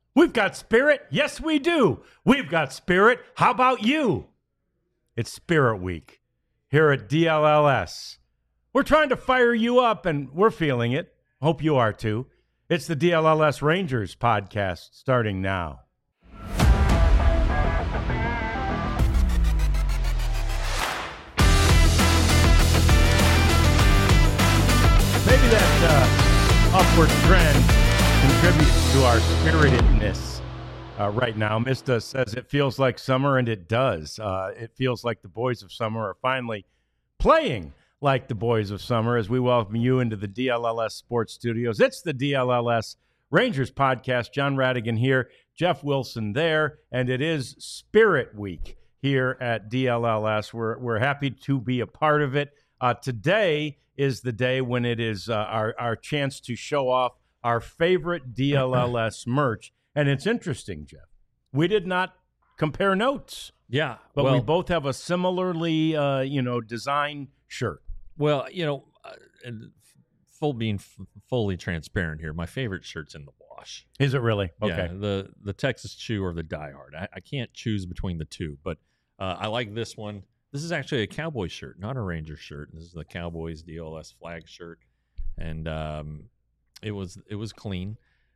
We've got spirit. Yes, we do. We've got spirit. How about you? It's Spirit Week here at DLLS. We're trying to fire you up, and we're feeling it. Hope you are too. It's the DLLS Rangers podcast starting now. Maybe that upward trend contributes to our spiritedness right now. Mista says it feels like summer, and it does. It feels like the boys of summer are finally playing like the boys of summer as we welcome you into the DLLS Sports Studios. It's the DLLS Rangers podcast. John Radigan here, Jeff Wilson there, and it is Spirit Week here at DLLS. We're happy to be a part of it. Today is the day when it is our chance to show off our favorite DLLS merch. And it's interesting, Jeff. We did not compare notes. Yeah. But we both have a similarly, design shirt. Well, and being fully transparent here, my favorite shirt's in the wash. Is it really? Okay. Yeah, the Texas Chew or the Die Hard. I can't choose between the two, but I like this one. This is actually a Cowboy shirt, not a Ranger shirt. This is the Cowboys DLS flag shirt, and it was clean.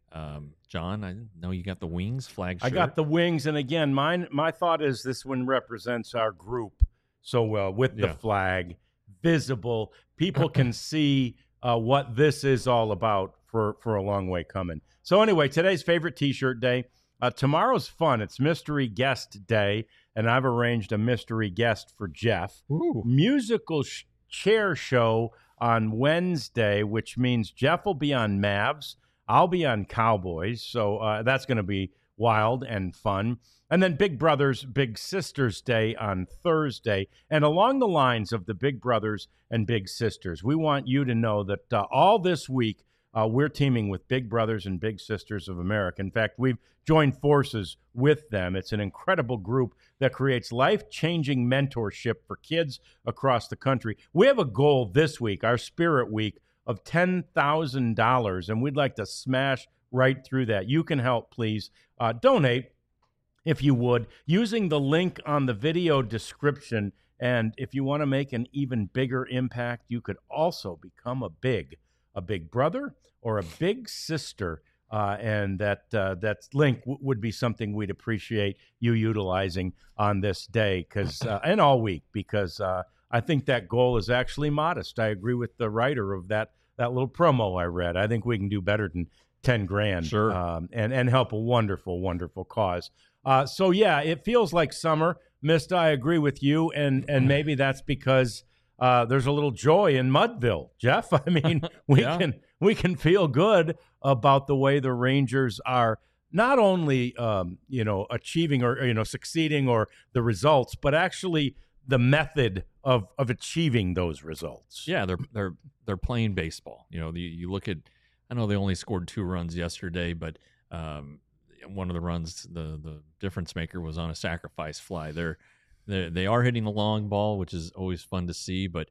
John, I know you got the wings flag shirt. I got the wings, and again, my thought is this one represents our group so well with the flag visible. People can see what this is all about for a long way coming. So anyway, today's favorite T-shirt day. Tomorrow's fun. It's Mystery Guest Day, and I've arranged a mystery guest for Jeff. Ooh. Musical chair show on Wednesday, which means Jeff will be on Mavs. I'll be on Cowboys, so that's going to be wild and fun. And then Big Brothers, Big Sisters Day on Thursday. And along the lines of the Big Brothers and Big Sisters, we want you to know that all this week, we're teaming with Big Brothers and Big Sisters of America. In fact, we've joined forces with them. It's an incredible group that creates life-changing mentorship for kids across the country. We have a goal this week, our Spirit Week, of $10,000, and we'd like to smash right through that. You can help, please. Donate, if you would, using the link on the video description. And if you want to make an even bigger impact, you could also become a big brother or a big sister. And that link would be something we'd appreciate you utilizing on this day and all week, because I think that goal is actually modest. I agree with the writer of that little promo I read. I think we can do better than $10,000. Sure. And help a wonderful, wonderful cause. So yeah, it feels like summer. Mista, I agree with you, and maybe that's because there's a little joy in Mudville, Jeff. I mean, we can feel good about the way the Rangers are not only achieving or succeeding or the results, but actually the method of achieving those results. Yeah, they're playing baseball. You look at, I know they only scored 2 runs yesterday, but one of the runs, the difference maker was on a sacrifice fly. They are hitting the long ball, which is always fun to see, but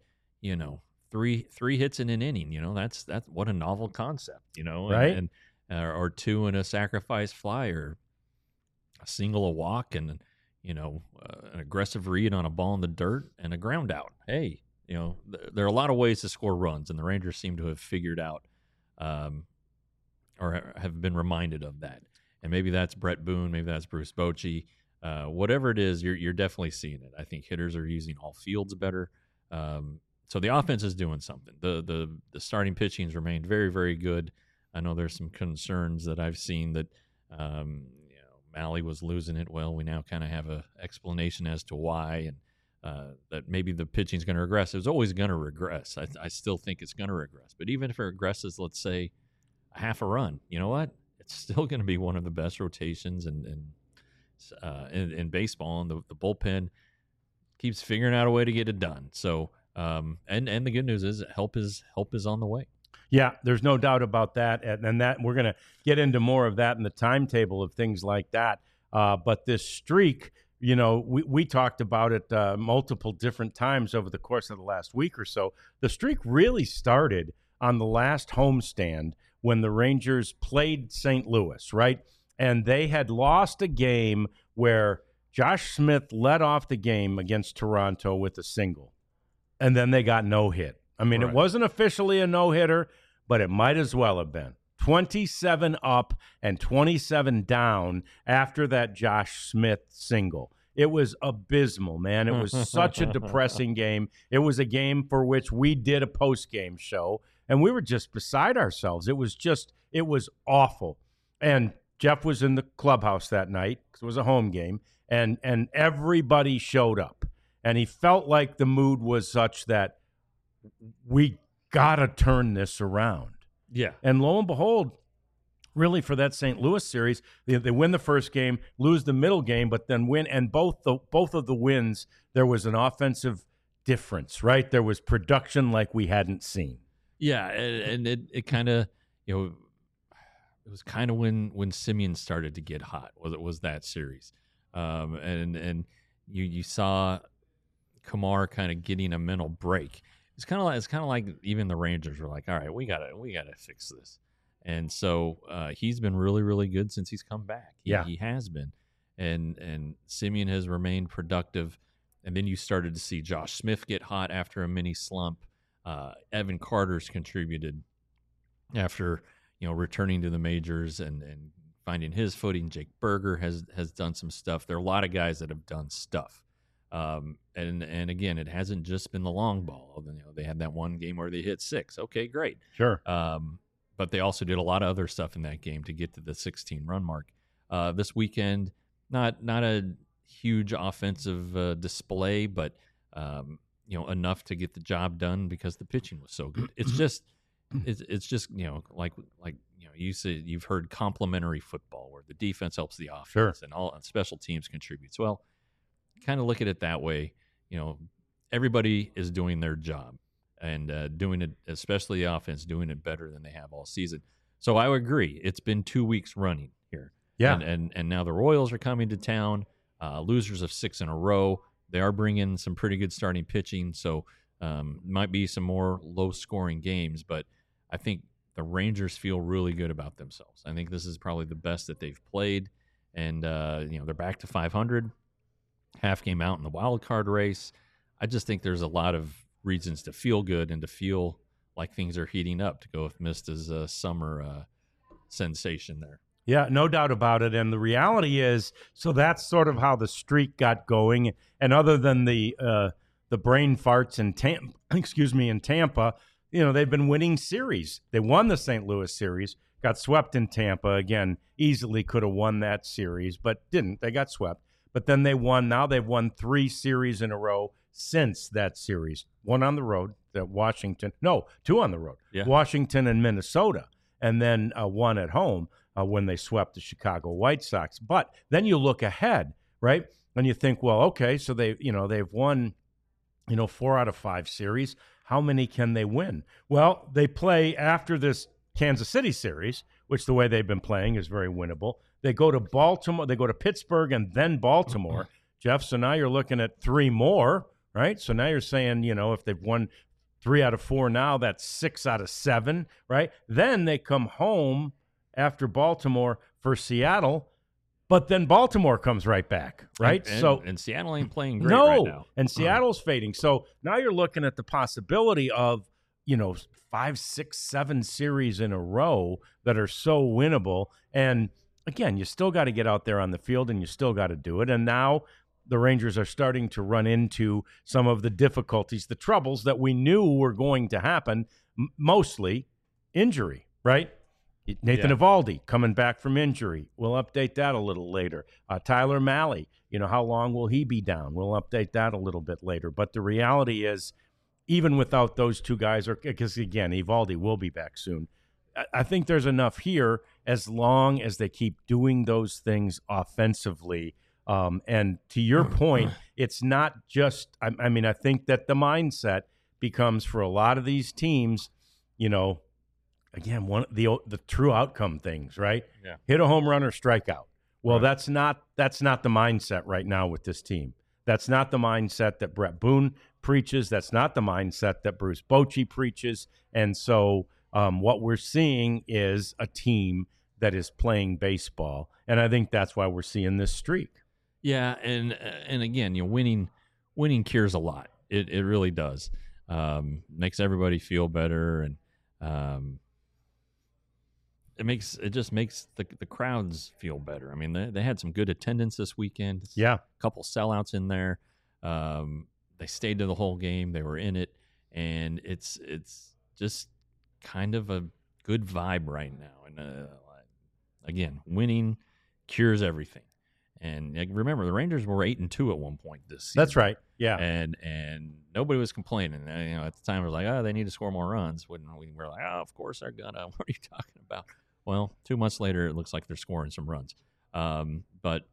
three hits in an inning, that's what a novel concept, right? And or 2 in a sacrifice fly, or a single, a walk, and an aggressive read on a ball in the dirt, and a ground out. Hey, there are a lot of ways to score runs, and the Rangers seem to have figured out, or have been reminded of that. And maybe that's Brett Boone, maybe that's Bruce Bochy. Whatever it is, you're definitely seeing it. I think hitters are using all fields better. So the offense is doing something. The starting pitching's remained very, very good. I know there's some concerns that I've seen that Malley was losing it. Well, we now kind of have an explanation as to why, and that maybe the pitching's going to regress. It was always going to regress. I still think it's going to regress. But even if it regresses, let's say, a half a run, you know what? It's still going to be one of the best rotations in baseball, and the bullpen keeps figuring out a way to get it done. So, and the good news is help is on the way. Yeah, there's no doubt about that, and that we're going to get into more of that in the timetable of things like that. But this streak, we talked about it multiple different times over the course of the last week or so. The streak really started on the last homestand when the Rangers played St. Louis, right? and they had lost a game where Josh Smith led off the game against Toronto with a single, and then they got no hit. I mean, It wasn't officially a no-hitter, but it might as well have been. 27 up and 27 down after that Josh Smith single. It was abysmal, man. It was such a depressing game. It was a game for which we did a post-game show, and we were just beside ourselves. It was awful. And Jeff was in the clubhouse that night because it was a home game, and everybody showed up. And he felt like the mood was such that we got to turn this around. Yeah. And lo and behold, really for that St. Louis series, they win the first game, lose the middle game, but then win. And both of the wins, there was an offensive difference, right? There was production like we hadn't seen. Yeah, and it kind of, it was kind of when Semien started to get hot. Was that series, and you saw Kumar kind of getting a mental break. It's kind of like even the Rangers were like, all right, we gotta fix this, and so he's been really, really good since he's come back. He has been, and Semien has remained productive, and then you started to see Josh Smith get hot after a mini slump. Evan Carter's contributed after returning to the majors and finding his footing. Jake Berger has done some stuff. There are a lot of guys that have done stuff. And again, it hasn't just been the long ball. They had that one game where they hit 6. Okay, great. Sure. But they also did a lot of other stuff in that game to get to the 16-run mark. This weekend, not a huge offensive display, but enough to get the job done because the pitching was so good. It's just like you said, you've heard complementary football where the defense helps the offense. Sure. And all special teams contributes. Well, kind of look at it that way. Everybody is doing their job and doing it, especially the offense, doing it better than they have all season. So I would agree. It's been 2 weeks running here. Yeah. And now the Royals are coming to town, losers of 6 in a row. They are bringing some pretty good starting pitching. So might be some more low-scoring games, but I think the Rangers feel really good about themselves. I think this is probably the best that they've played, and they're back to 500, half game out in the wild card race. I just think there's a lot of reasons to feel good and to feel like things are heating up, to go with Mista's summer sensation there. Yeah, no doubt about it. And the reality is, so that's sort of how the streak got going. And other than the brain farts in Tampa, they've been winning series. They won the St. Louis series, got swept in Tampa. Again, easily could have won that series, but didn't. They got swept. But then they won. Now they've won 3 series in a row since that series. 1 on the road, Washington. No, 2 on the road. Yeah. Washington and Minnesota. And then 1 at home when they swept the Chicago White Sox. But then you look ahead, right? And you think, well, okay, so they've won, 4 out of 5 series. How many can they win? Well, they play after this Kansas City series, which the way they've been playing is very winnable. They go to Baltimore, they go to Pittsburgh, and then Baltimore. Jeff, so now you're looking at 3 more, right? So now you're saying, if they've won 3 out of 4 now, that's 6 out of 7, right? Then they come home after Baltimore for Seattle, but then Baltimore comes right back, right? And Seattle ain't playing great right now. And Seattle's fading. So now you're looking at the possibility of, 5, 6, 7 series in a row that are so winnable. And again, you still got to get out there on the field and you still got to do it. And now the Rangers are starting to run into some of the difficulties, the troubles that we knew were going to happen, mostly injury, right? Nathan Eovaldi coming back from injury. We'll update that a little later. Tyler Mahle, how long will he be down? We'll update that a little bit later. But the reality is, even without those 2 guys, because again, Eovaldi will be back soon, I think there's enough here as long as they keep doing those things offensively. And to your point, it's not just, I think that the mindset becomes for a lot of these teams, again, the true outcome things, right? Yeah. Hit a home run or strike out. Well, Right. that's not the mindset right now with this team. That's not the mindset that Brett Boone preaches. That's not the mindset that Bruce Bochy preaches. And so what we're seeing is a team that is playing baseball. And I think that's why we're seeing this streak. Yeah, and again, winning cures a lot. It really does. Makes everybody feel better, and it just makes the crowds feel better. I mean, they had some good attendance this weekend. Yeah, a couple sellouts in there. They stayed to the whole game. They were in it, and it's just kind of a good vibe right now. And again, winning cures everything. And remember, the Rangers were 8-2 at one point this season. That's right. Yeah, and nobody was complaining. At the time, it was like, oh, they need to score more runs. When we were like, oh, of course they're gonna. What are you talking about? Well, 2 months later, it looks like they're scoring some runs. But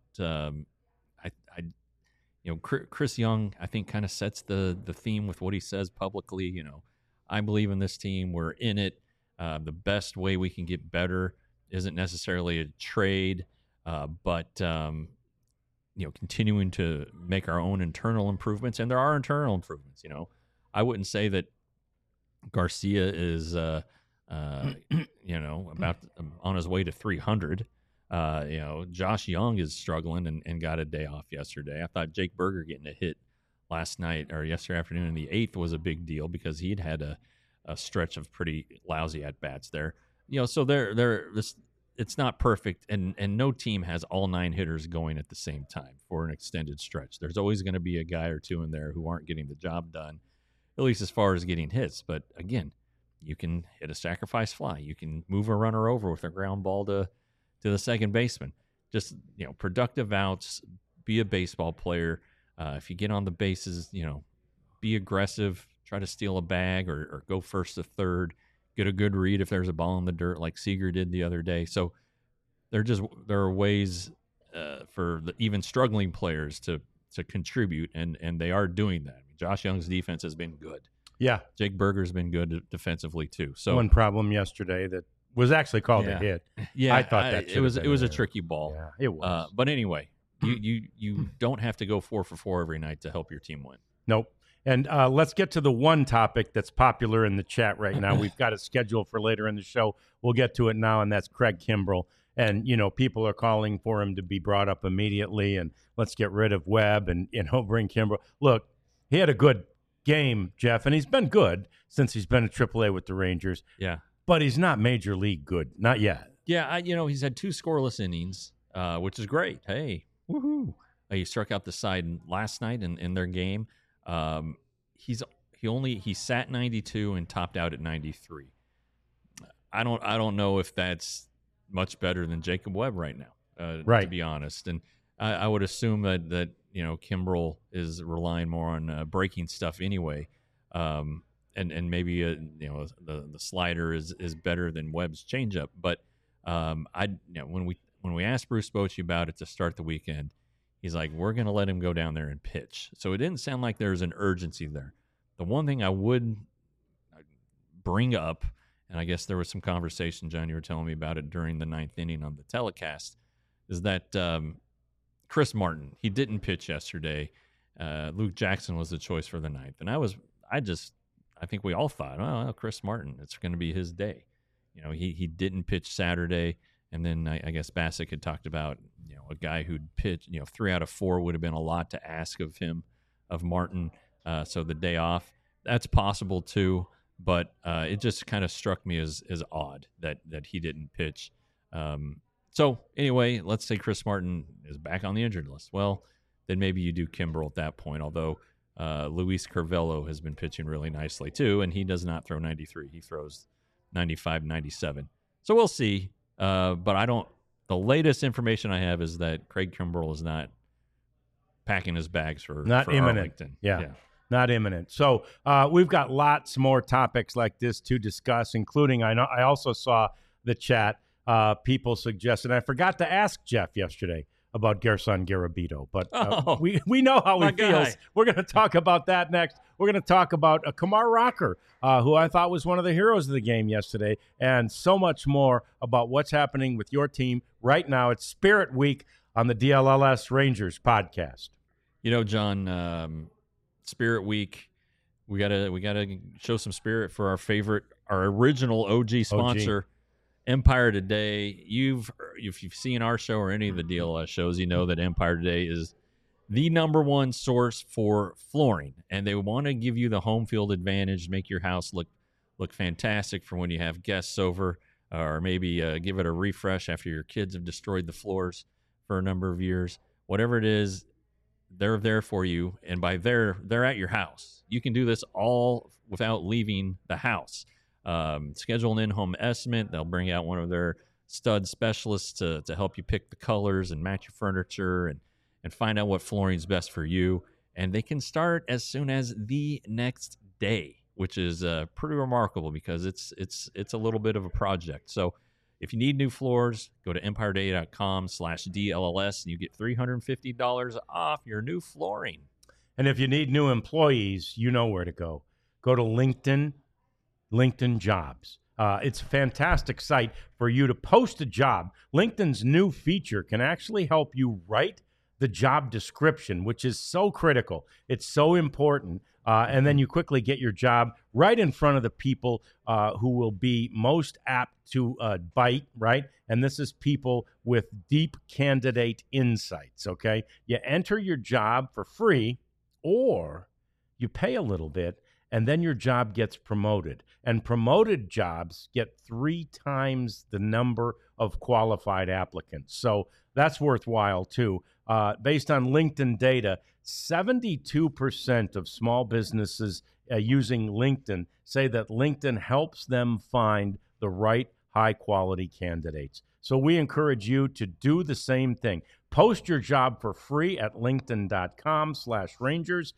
Chris Young, I think, kind of sets the theme with what he says publicly. I believe in this team. We're in it. The best way we can get better isn't necessarily a trade, but continuing to make our own internal improvements. And there are internal improvements. I wouldn't say that Garcia is, about on his way to 300. Josh Young is struggling and got a day off yesterday. I thought Jake Berger getting a hit last night or yesterday afternoon in the 8th was a big deal because he'd had a stretch of pretty lousy at bats there. So it's not perfect, and no team has all 9 hitters going at the same time for an extended stretch. There's always going to be a guy or two in there who aren't getting the job done, at least as far as getting hits. But again, you can hit a sacrifice fly. You can move a runner over with a ground ball to the second baseman. Just, productive outs, be a baseball player. If you get on the bases, be aggressive, try to steal a bag or go first to third, get a good read if there's a ball in the dirt like Seager did the other day. So there are ways for the even struggling players to contribute, and they are doing that. I mean, Josh Young's defense has been good. Yeah. Jake Berger's been good defensively too. So one problem yesterday that was actually called a hit. Yeah, I thought that it was a tricky ball. Yeah, it was. But anyway, you don't have to go 4 for 4 every night to help your team win. Nope. And let's get to the one topic that's popular in the chat right now. We've got it scheduled for later in the show. We'll get to it now, and that's Craig Kimbrell. And, people are calling for him to be brought up immediately, and let's get rid of Webb and, bring Kimbrell. Look, he had a good game, Jeff, and he's been good since he's been at AAA with the Rangers. Yeah. But he's not major league good. Not yet. Yeah, he's had 2 scoreless innings, which is great. Hey, woohoo. He struck out the side last night in their game. He sat 92 and topped out at 93. I don't know if that's much better than Jacob Webb right now, right, to be honest. And I would assume that Kimbrell is relying more on breaking stuff anyway. And maybe the slider is better than Webb's changeup. But when we asked Bruce Bochy about it to start the weekend, he's like, we're going to let him go down there and pitch. So it didn't sound like there's an urgency there. The one thing I would bring up, and I guess there was some conversation, John, you were telling me about it during the 9th inning on the telecast, is that Chris Martin, he didn't pitch yesterday. Luke Jackson was the choice for the 9th. And I think we all thought, oh, Chris Martin, it's going to be his day. He didn't pitch Saturday. And then I guess Bassick had talked about, a guy who'd pitch, 3 out of 4 would have been a lot to ask of him, of Martin. So the day off, that's possible too. But it just kind of struck me as odd that he didn't pitch. So anyway, let's say Chris Martin is back on the injured list. Well, then maybe you do Kimbrell at that point, although Luis Curvelo has been pitching really nicely too, and he does not throw 93. He throws 95, 97. So we'll see. But the latest information I have is that Craig Kimbrell is not packing his bags for imminent. Arlington. Yeah. Not imminent. So we've got lots more topics like this to discuss, including I also saw the chat. People suggested, I forgot to ask Jeff yesterday about Gerson Garabito, but we know how he feels. We're going to talk about that next. We're going to talk about Kumar Rocker, who I thought was one of the heroes of the game yesterday, and so much more about what's happening with your team right now. It's Spirit Week on the DLLS Rangers podcast. John, Spirit Week, we gotta show some spirit for our original OG sponsor. Empire Today. If you've seen our show or any of the DLS shows, you know that Empire Today is the number one source for flooring, and they want to give you the home field advantage, make your house look fantastic for when you have guests over, or maybe give it a refresh after your kids have destroyed the floors for a number of years. Whatever it is, they're there for you, and by they're at your house. You can do this all without leaving the house. Schedule an in-home estimate. They'll bring out one of their stud specialists to help you pick the colors and match your furniture and find out what flooring is best for you. And they can start as soon as the next day, which is pretty remarkable because it's a little bit of a project. So if you need new floors, go to empireday.com/DLLS and you get $350 off your new flooring. And if you need new employees, you know where to go. Go to LinkedIn Jobs. It's a fantastic site for you to post a job. LinkedIn's new feature can actually help you write the job description, which is so critical. It's so important. And then you quickly get your job right in front of the people who will be most apt to bite, right? And this is people with deep candidate insights, okay? You enter your job for free or you pay a little bit and then your job gets promoted. And promoted jobs get 3 times the number of qualified applicants. So that's worthwhile too. Based on LinkedIn data, 72% of small businesses using LinkedIn say that LinkedIn helps them find the right high-quality candidates. So we encourage you to do the same thing. Post your job for free at linkedin.com/Rangers,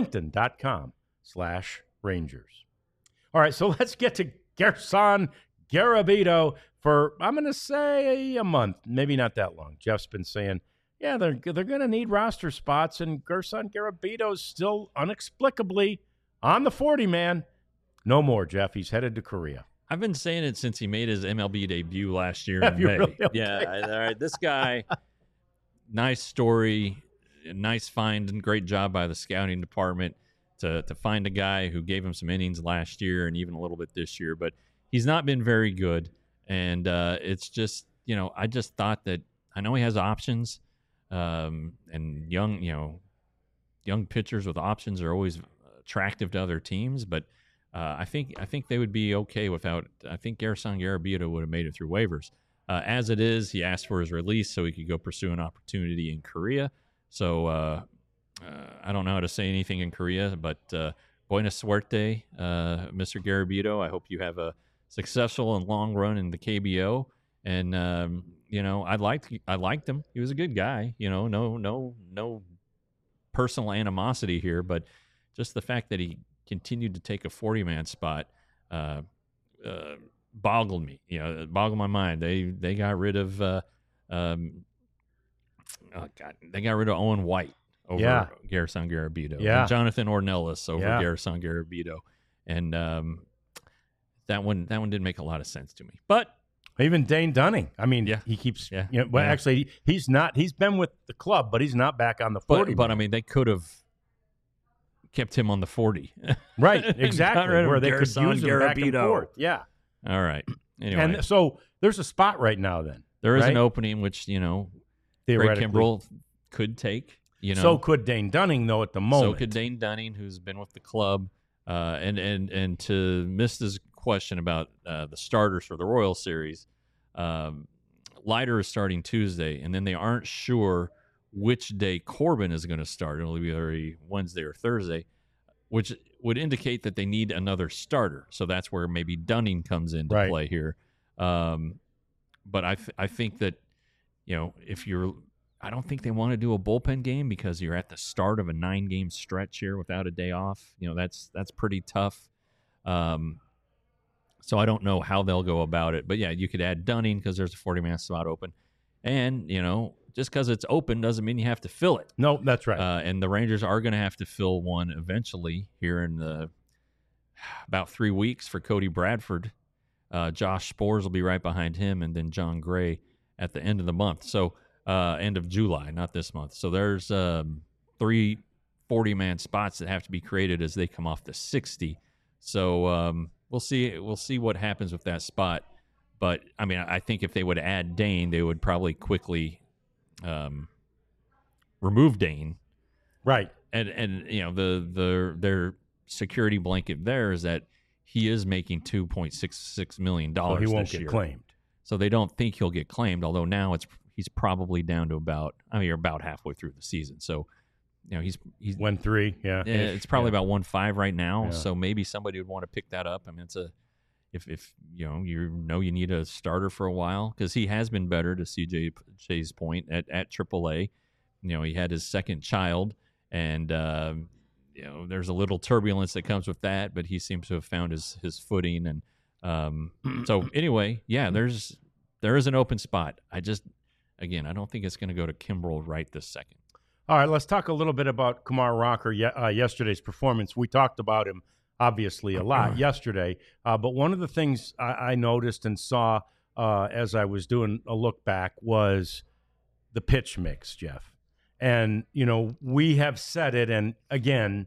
linkedin.com/Rangers. All right, so let's get to Gerson Garabito for, I'm going to say, a month, maybe not that long. Jeff's been saying, yeah, they're going to need roster spots, and Gerson Garabito's still inexplicably on the 40-man. No more, Jeff. He's headed to Korea. I've been saying it since he made his MLB debut last year Have in you May. really? Okay. Yeah, all right. This guy, nice story, nice find, and great job by the scouting department to find a guy who gave him some innings last year and even a little bit this year. But he's not been very good, and it's just, I just thought that, I know he has options, and young pitchers with options are always attractive to other teams, but I think they would be okay without. I think Gerson Garabito would have made it through waivers. As it is, he asked for his release so he could go pursue an opportunity in Korea. So I don't know how to say anything in Korea, but buena suerte, Mr. Garabito. I hope you have a successful and long run in the KBO. And I liked him. He was a good guy. No personal animosity here, but just the fact that he continued to take a 40-man spot boggled me. Boggled my mind. They got rid of they got rid of Owen White over Gerson Garabito. Yeah. And Jonathan Ornelas over Gerson Garabito. And that one didn't make a lot of sense to me. But even Dane Dunning. I mean, he keeps. Yeah. Actually, he's not. He's been with the club, but he's not back on the 40. But I mean, they could have kept him on the 40. Right, exactly. Where they could use him back and forth. Yeah. All right. Anyway. And so there's a spot right now then. There is an opening which, Craig Kimbrell could take. So could Dane Dunning, though, at the moment. So could Dane Dunning, who's been with the club. And to miss this question about the starters for the Royal Series, Leiter is starting Tuesday, and then they aren't sure which day Corbin is going to start. It'll be either Wednesday or Thursday, which would indicate that they need another starter. So that's where maybe Dunning comes into play here. But I think that, I don't think they want to do a bullpen game because you're at the start of a 9-game stretch here without a day off. That's pretty tough. So I don't know how they'll go about it. But, yeah, you could add Dunning because there's a 40-man spot open. And, just because it's open doesn't mean you have to fill it. No, that's right. And the Rangers are going to have to fill one eventually here in about 3 weeks for Cody Bradford. Josh Spores will be right behind him, and then John Gray at the end of the month. So end of July, not this month. So there's 3 40-man spots that have to be created as they come off the 60. So we'll see what happens with that spot. But I mean, I think if they would add Dane, they would probably quickly remove Dane. Right. And their security blanket there is that he is making $2.66 million So he won't this get year. claimed. So they don't think he'll get claimed, although now he's probably down to about halfway through the season. So, he's 1-3, yeah. it's probably about 1.5 right now. Yeah. So maybe somebody would want to pick that up. I mean, it's if you need a starter for a while, because he has been better, to CJ's point, at AAA. He had his second child, and there's a little turbulence that comes with that, but he seems to have found his footing. And so anyway, yeah, there is an open spot. I don't think it's going to go to Kimbrel right this second. All right, let's talk a little bit about Kumar Rocker yesterday's performance. We talked about him, obviously, a lot yesterday. But one of the things I noticed and saw as I was doing a look back was the pitch mix, Jeff. And, we have said it, and again,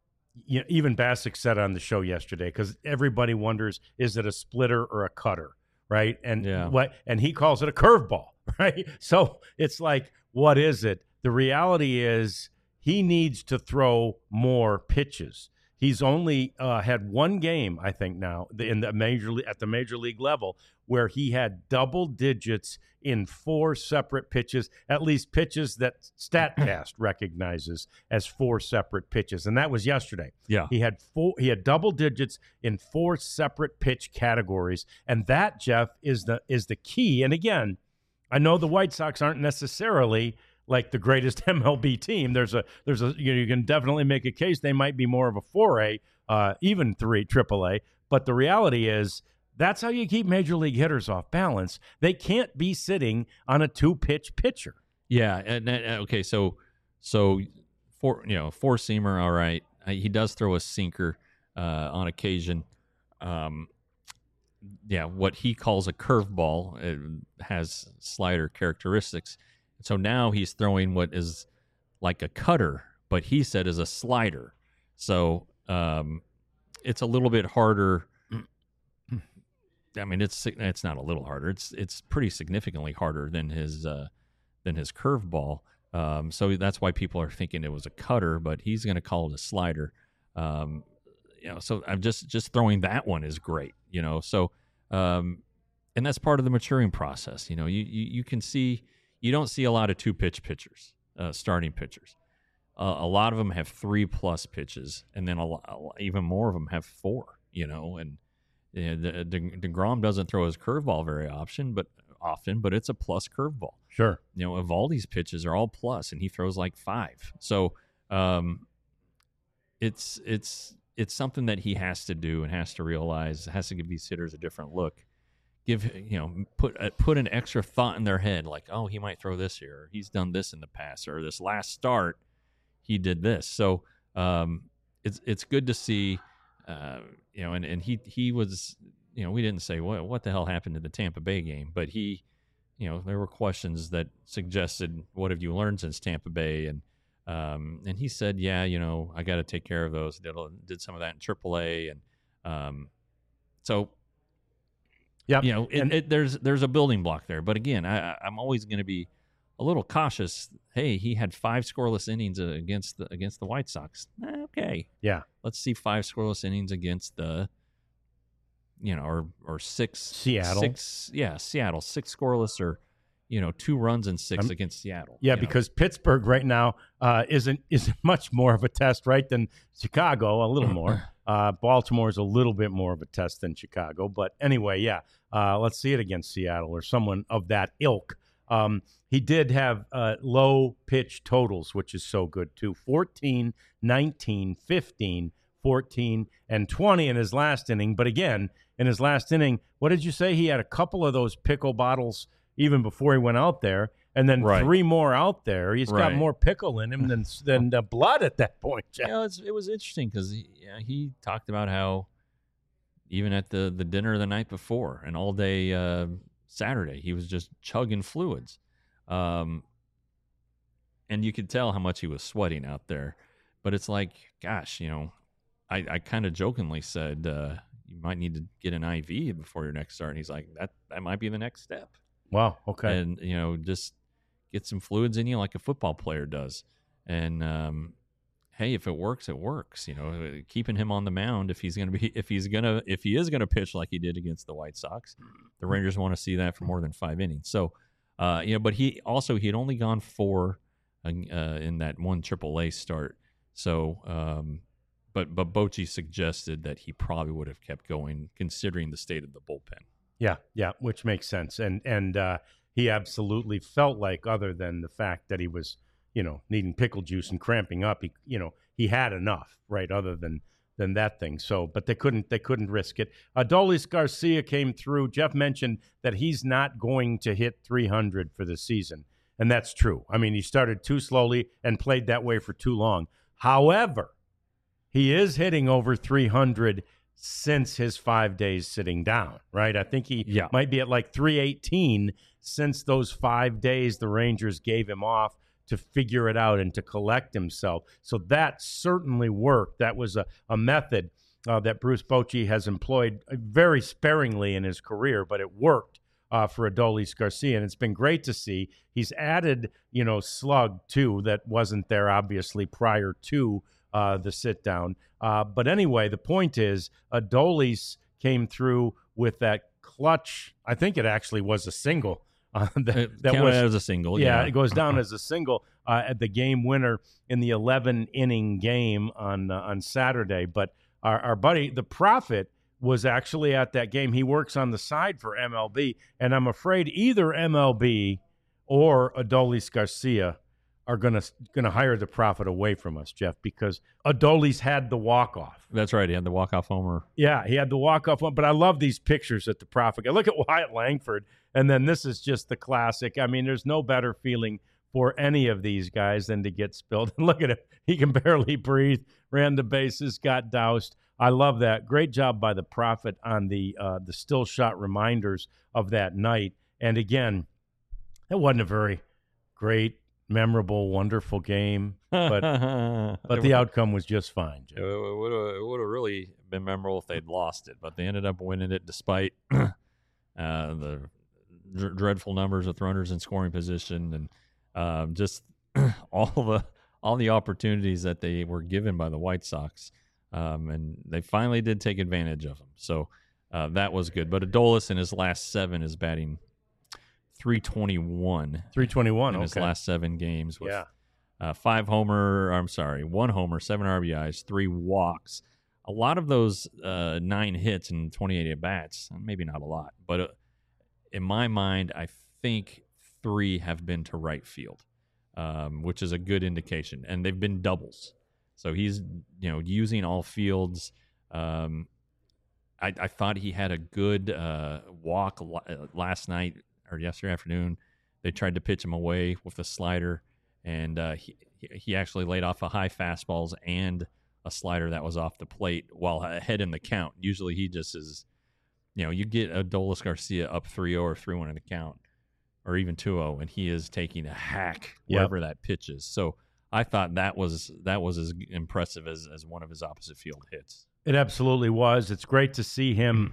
even Bassick said on the show yesterday, because everybody wonders, is it a splitter or a cutter, right? And and he calls it a curveball, right? So it's like, what is it? The reality is he needs to throw more pitches. He's only had one game, I think, now at the major league level where he had double digits in 4 separate pitches, at least pitches that StatCast recognizes as 4 separate pitches, and that was yesterday. Yeah, he had double digits in 4 separate pitch categories, and that, Jeff, is the key. And again, I know the White Sox aren't necessarily like the greatest MLB team. There's a you can definitely make a case they might be more of a 4A, even 3 AAA. But the reality is that's how you keep major league hitters off balance. They can't be sitting on a 2-pitch pitcher. Yeah. Okay. So four-seamer, all right. He does throw a sinker on occasion. What he calls a curveball, it has slider characteristics. So now he's throwing what is like a cutter, but he said is a slider. So it's a little bit harder. I mean, it's not a little harder. It's pretty significantly harder than his curveball. So that's why people are thinking it was a cutter, but he's going to call it a slider. So I'm just throwing that one is great. So and that's part of the maturing process. You can see. You don't see a lot of 2-pitch pitchers, starting pitchers. A lot of them have 3+ pitches, and then even more of them have 4. And DeGrom doesn't throw his curveball very often, but it's a plus curveball. Sure. Evaldi's pitches are all plus, and he throws like 5. So it's something that he has to do and has to realize, has to give these hitters a different look. Put an extra thought in their head, like, oh, he might throw this here, or he's done this in the past, or this last start he did this. So it's good to see, and he was, we didn't say what the hell happened to the Tampa Bay game, but there were questions that suggested, what have you learned since Tampa Bay, and he said, I got to take care of those. Did some of that in AAA, and so. Yeah, there's a building block there, but again, I'm always going to be a little cautious. Hey, he had 5 scoreless innings against the White Sox. Okay, yeah, let's see 5 scoreless innings against the, or 6 Seattle. Seattle 6 scoreless, or 2 runs and 6 against Seattle. Yeah, because Pittsburgh right now isn't much more of a test, right, than Chicago. A little more. Baltimore is a little bit more of a test than Chicago. But anyway, yeah, let's see it against Seattle or someone of that ilk. He did have low pitch totals, which is so good too. 14, 19, 15, 14, and 20 in his last inning. But again, in his last inning, what did you say? He had a couple of those pickle bottles even before he went out there, and then 3 more out there. He's got more pickle in him than blood at that point, Jeff. It was interesting because he talked about how even at the dinner the night before and all day Saturday, he was just chugging fluids. And you could tell how much he was sweating out there. But it's like, gosh, I kind of jokingly said, you might need to get an IV before your next start. And he's like, that might be the next step. Wow. Okay. And, just get some fluids in you like a football player does. And, hey, if it works, it works. Keeping him on the mound if he is going to pitch like he did against the White Sox, the Rangers want to see that for more than 5 innings. So, but he had only gone 4 in that one AAA start. So, but Bochy suggested that he probably would have kept going considering the state of the bullpen. Yeah, which makes sense. And he absolutely felt like, other than the fact that he was, needing pickle juice and cramping up, he had enough, right? Other than that thing. So, but they couldn't risk it. Adolis Garcia came through. Jeff mentioned that he's not going to hit 300 for the season, and that's true. I mean, he started too slowly and played that way for too long. However, he is hitting over 300 since his 5 days sitting down, right? I think he might be at like 318 since those 5 days the Rangers gave him off to figure it out and to collect himself. So that certainly worked. That was a method that Bruce Bochy has employed very sparingly in his career, but it worked for Adolis Garcia, and it's been great to see. He's added, slug too, that wasn't there obviously prior to the sit down. But anyway, the point is Adolis came through with that clutch. I think it actually was a single. That was as a single. Yeah, it goes down as a single at the game winner in the 11-inning game on Saturday. But our buddy, the Prophet, was actually at that game. He works on the side for MLB, and I'm afraid either MLB or Adolis Garcia are gonna hire the Prophet away from us, Jeff, because Adolis had the walk-off. That's right. He had the walk-off homer. Yeah, he had the walk-off one. But I love these pictures that the Prophet got. Look at Wyatt Langford, and then this is just the classic. I mean, there's no better feeling for any of these guys than to get spilled. And look at him. He can barely breathe, ran the bases, got doused. I love that. Great job by the Prophet on the still shot reminders of that night. And again, it wasn't a very great, memorable, wonderful game, but the outcome was just fine, Jim. It would have really been memorable if they'd lost it, but they ended up winning it despite the dreadful numbers of runners in scoring position and just all the opportunities that they were given by the White Sox, and they finally did take advantage of them. So that was good. But Adolis in his last 7 is batting 321 in his last 7 games with 1 homer, 7 RBIs, 3 walks. A lot of those 9 hits and 28 at-bats, maybe not a lot, but in my mind, I think 3 have been to right field, which is a good indication, and they've been doubles. So he's using all fields. I thought he had a good walk last night or yesterday afternoon. They tried to pitch him away with a slider, and he actually laid off a high fastballs and a slider that was off the plate while ahead in the count. Usually he just is, you get Adolis Garcia up 3-0 or 3-1 in the count, or even 2-0, and he is taking a hack wherever that pitch is. So I thought that was as impressive as one of his opposite field hits. It absolutely was. It's great to see him,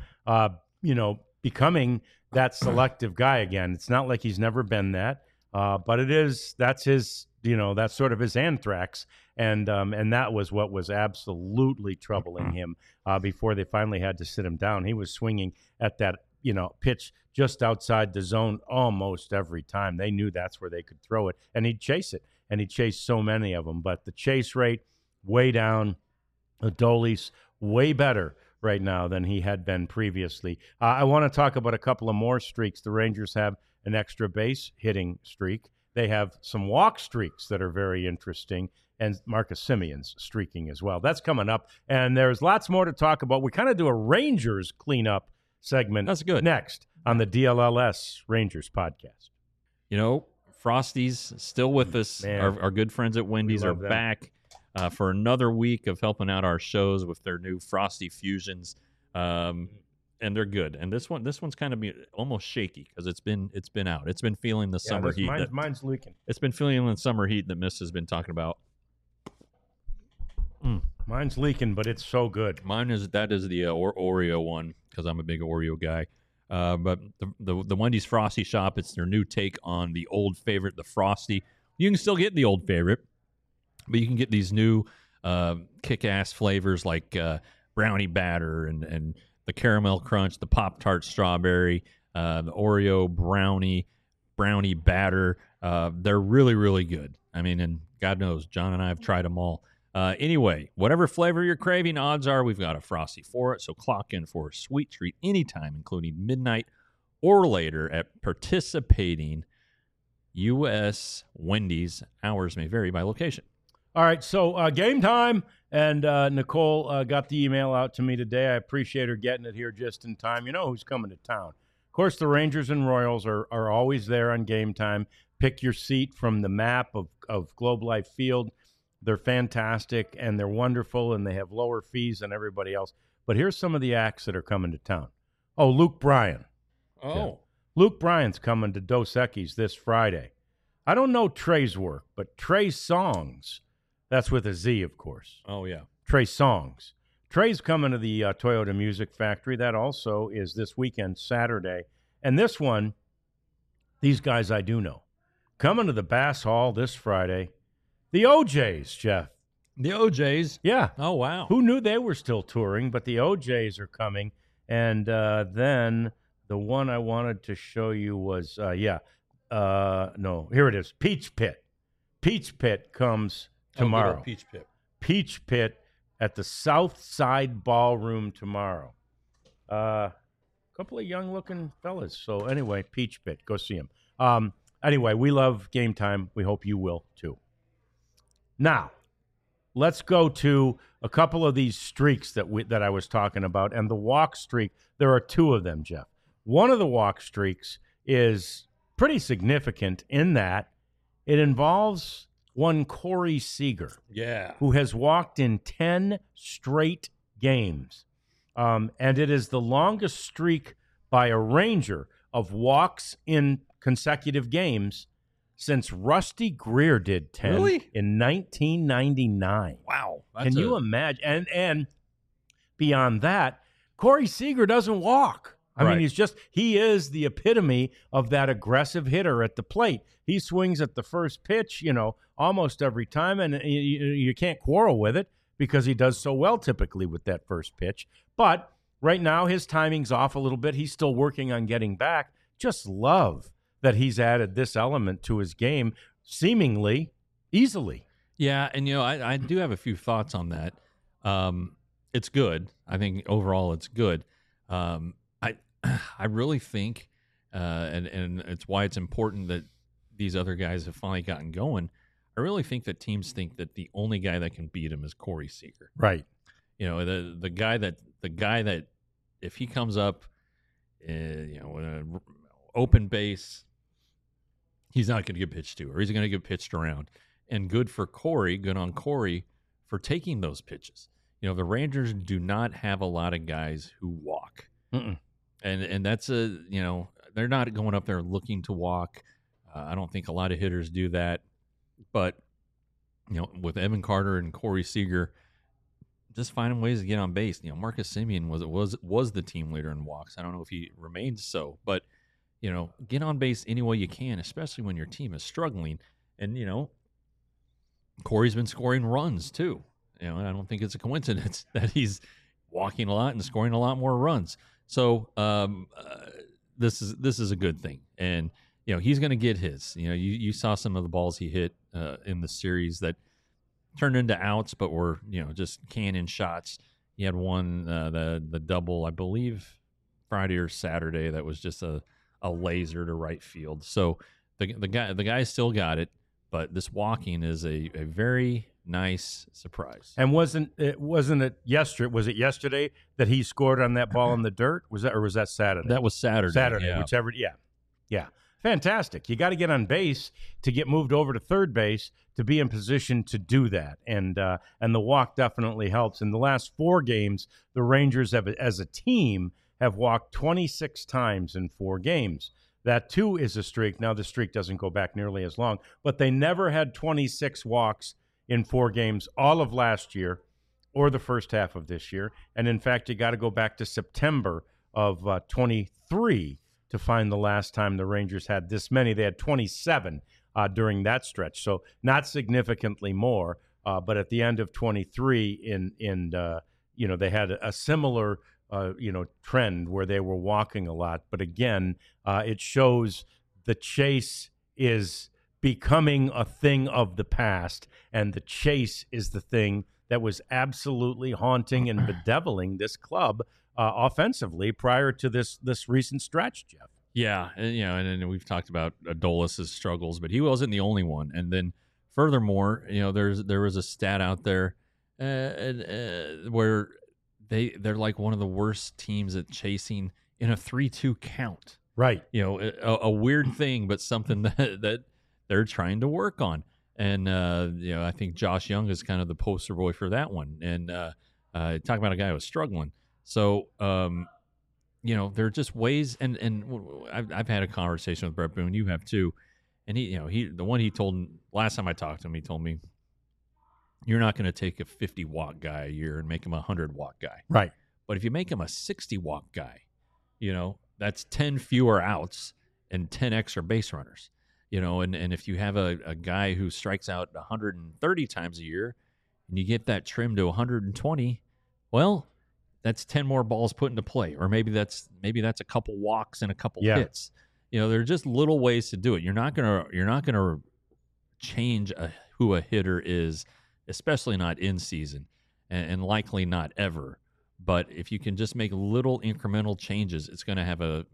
becoming that selective guy again. It's not like he's never been that, but that's his, that's sort of his anthrax. And that was what was absolutely troubling him before they finally had to sit him down. He was swinging at that, pitch just outside the zone almost every time. They knew that's where they could throw it, and he'd chase it, and he'd chase so many of them. But the chase rate way down. Adolis way better right now than he had been previously. I want to talk about a couple of more streaks. The Rangers have an extra base hitting streak. They have some walk streaks that are very interesting, and Marcus Simeon's streaking as well. That's coming up, and there's lots more to talk about. We kind of do a Rangers cleanup segment. That's good. Next on the DLLS Rangers podcast. Frosty's still with us. Our good friends at Wendy's are back for another week of helping out our shows with their new Frosty Fusions, and they're good. And this one's kind of almost shaky because it's been out. It's been feeling the summer heat. Mine's leaking. It's been feeling the summer heat that Miss has been talking about. Mine's leaking, but it's so good. Mine is the Oreo one because I'm a big Oreo guy. But the Wendy's Frosty Shop, it's their new take on the old favorite, the Frosty. You can still get the old favorite, but you can get these new kick-ass flavors like brownie batter and the caramel crunch, the Pop-Tart strawberry, the Oreo brownie batter. They're really, really good. I mean, and God knows, John and I have tried them all. Anyway, whatever flavor you're craving, odds are we've got a Frosty for it. So clock in for a sweet treat anytime, including midnight or later at participating U.S. Wendy's. Hours may vary by location. All right, so game time, and Nicole got the email out to me today. I appreciate her getting it here just in time. You know who's coming to town. Of course, the Rangers and Royals are always there on game time. Pick your seat from the map of Globe Life Field. They're fantastic, and they're wonderful, and they have lower fees than everybody else. But here's some of the acts that are coming to town. Oh, Luke Bryan. Oh. Yeah. Luke Bryan's coming to Dos Equis this Friday. I don't know Trey's work, but Trey Songs, that's with a Z, of course. Oh, yeah. Trey Songs. Trey's coming to the Toyota Music Factory. That also is this weekend, Saturday. And this one, these guys I do know. Coming to the Bass Hall this Friday. The OJs, Jeff. The OJs? Yeah. Oh, wow. Who knew they were still touring, but the OJs are coming. And then the one I wanted to show you was, no, here it is, Peach Pit. Peach Pit comes tomorrow. Peach Pit. Peach Pit at the South Side Ballroom tomorrow. A couple of young-looking fellas. So anyway, Peach Pit, go see them. Anyway, we love game time. We hope you will, too. Now, let's go to a couple of these streaks that I was talking about. And the walk streak, there are two of them, Jeff. One of the walk streaks is pretty significant in that it involves one Corey Seager. Yeah. Who has walked in 10 straight games. And it is the longest streak by a Ranger of walks in consecutive games since Rusty Greer did 10 in 1999. Wow. Can you imagine? And beyond that, Corey Seager doesn't walk. I mean, he is the epitome of that aggressive hitter at the plate. He swings at the first pitch, almost every time, and you can't quarrel with it because he does so well typically with that first pitch. But right now, his timing's off a little bit. He's still working on getting back. Just love that he's added this element to his game seemingly easily. Yeah, and I do have a few thoughts on that. It's good. I think overall it's good. I really think, and it's why it's important that these other guys have finally gotten going. I really think that teams think that the only guy that can beat him is Corey Seager. Right. The guy that if he comes up, open base, he's not going to get pitched to, or he's going to get pitched around. And good on Corey for taking those pitches. The Rangers do not have a lot of guys who walk. Mm-mm. And that's they're not going up there looking to walk. I don't think a lot of hitters do that. But, with Evan Carter and Corey Seager, just finding ways to get on base. Marcus Semien was the team leader in walks. I don't know if he remains so, but get on base any way you can, especially when your team is struggling. And Corey's been scoring runs too. And I don't think it's a coincidence that he's walking a lot and scoring a lot more runs. So this is a good thing, and he's going to get his. You saw some of the balls he hit in the series that turned into outs, but were just cannon shots. He had one the double, I believe, Friday or Saturday that was just a laser to right field. So the guy still got it, but this walking is a very nice surprise. And wasn't it yesterday? Was it yesterday that he scored on that ball in the dirt? Was that Saturday? That was Saturday. Saturday, yeah. Whichever. Yeah. Fantastic. You got to get on base to get moved over to third base to be in position to do that. And the walk definitely helps. In the last 4 games, the Rangers have, as a team, have walked 26 times in 4 games. That, too, is a streak. Now, the streak doesn't go back nearly as long, but they never had 26 walks in 4 games all of last year. or the first half of this year. And in fact, you got to go back to September of 23 to find the last time the Rangers had this many. They had 27 during that stretch, so not significantly more. But at the end of 23, they had a similar trend where they were walking a lot. But again, it shows the chase is becoming a thing of the past, and the chase is the thing that was absolutely haunting and bedeviling this club offensively prior to this recent stretch, Jeff. Yeah, and we've talked about Adolis' struggles, but he wasn't the only one. And then furthermore, there was a stat out there where they're like one of the worst teams at chasing in a 3-2 count. Right. A weird thing, but something that they're trying to work on. And I think Josh Young is kind of the poster boy for that one. And talking about a guy who was struggling. So there are just ways, and I've had a conversation with Brett Boone. You have too. And he told last time I talked to him, he told me, you're not going to take a 50-walk guy a year and make him a 100-walk guy. Right. But if you make him a 60-walk guy, that's 10 fewer outs and 10 extra base runners. And if you have a guy who strikes out 130 times a year and you get that trimmed to 120, well, that's 10 more balls put into play. Or maybe that's a couple walks and a couple hits. There are just little ways to do it. You're not gonna change who a hitter is, especially not in season, and likely not ever. But if you can just make little incremental changes, it's going to have a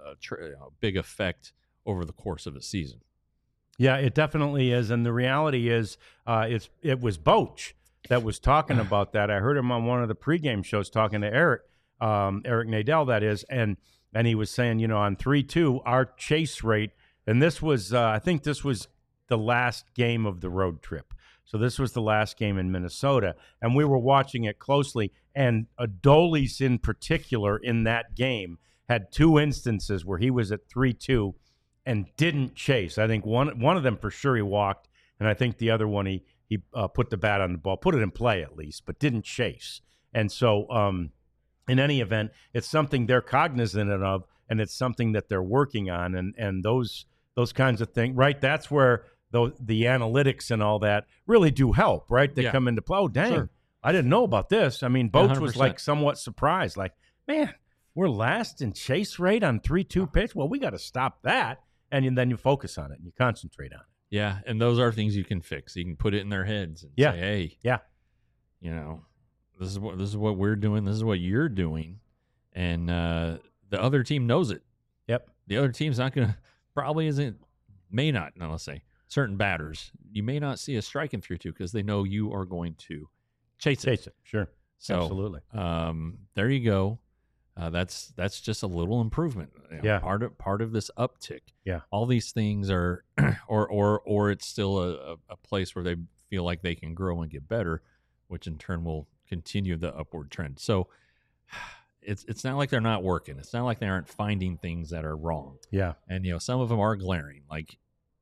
big effect over the course of a season. Yeah, it definitely is. And the reality is it was Boch that was talking about that. I heard him on one of the pregame shows talking to Eric Nadel, that is, and he was saying, on 3-2, our chase rate, and this was, I think this was the last game of the road trip. So this was the last game in Minnesota, and we were watching it closely, and Adolis in particular in that game had two instances where he was at 3-2 and didn't chase. I think one of them for sure he walked, and I think the other one he put the bat on the ball, put it in play at least, but didn't chase. And so in any event, it's something they're cognizant of, and it's something that they're working on, and those kinds of things, right? That's where the analytics and all that really do help, right? They come into play. Oh, dang, sure. I didn't know about this. I mean, Boch was like somewhat surprised, like, man, we're last in chase rate on 3-2 pitch. Well, we got to stop that, and then you focus on it and you concentrate on it. Yeah, and those are things you can fix. You can put it in their heads and say, hey, this is what we're doing. This is what you're doing, and the other team knows it. Yep. The other team's not going to may not. Now let's say certain batters, you may not see a striking 3-2 because they know you are going to chase it. Sure. So, absolutely. There you go. That's just a little improvement. Part of this uptick. Yeah. All these things are, or it's still a place where they feel like they can grow and get better, which in turn will continue the upward trend. So it's not like they're not working. It's not like they aren't finding things that are wrong. Yeah. And some of them are glaring. Like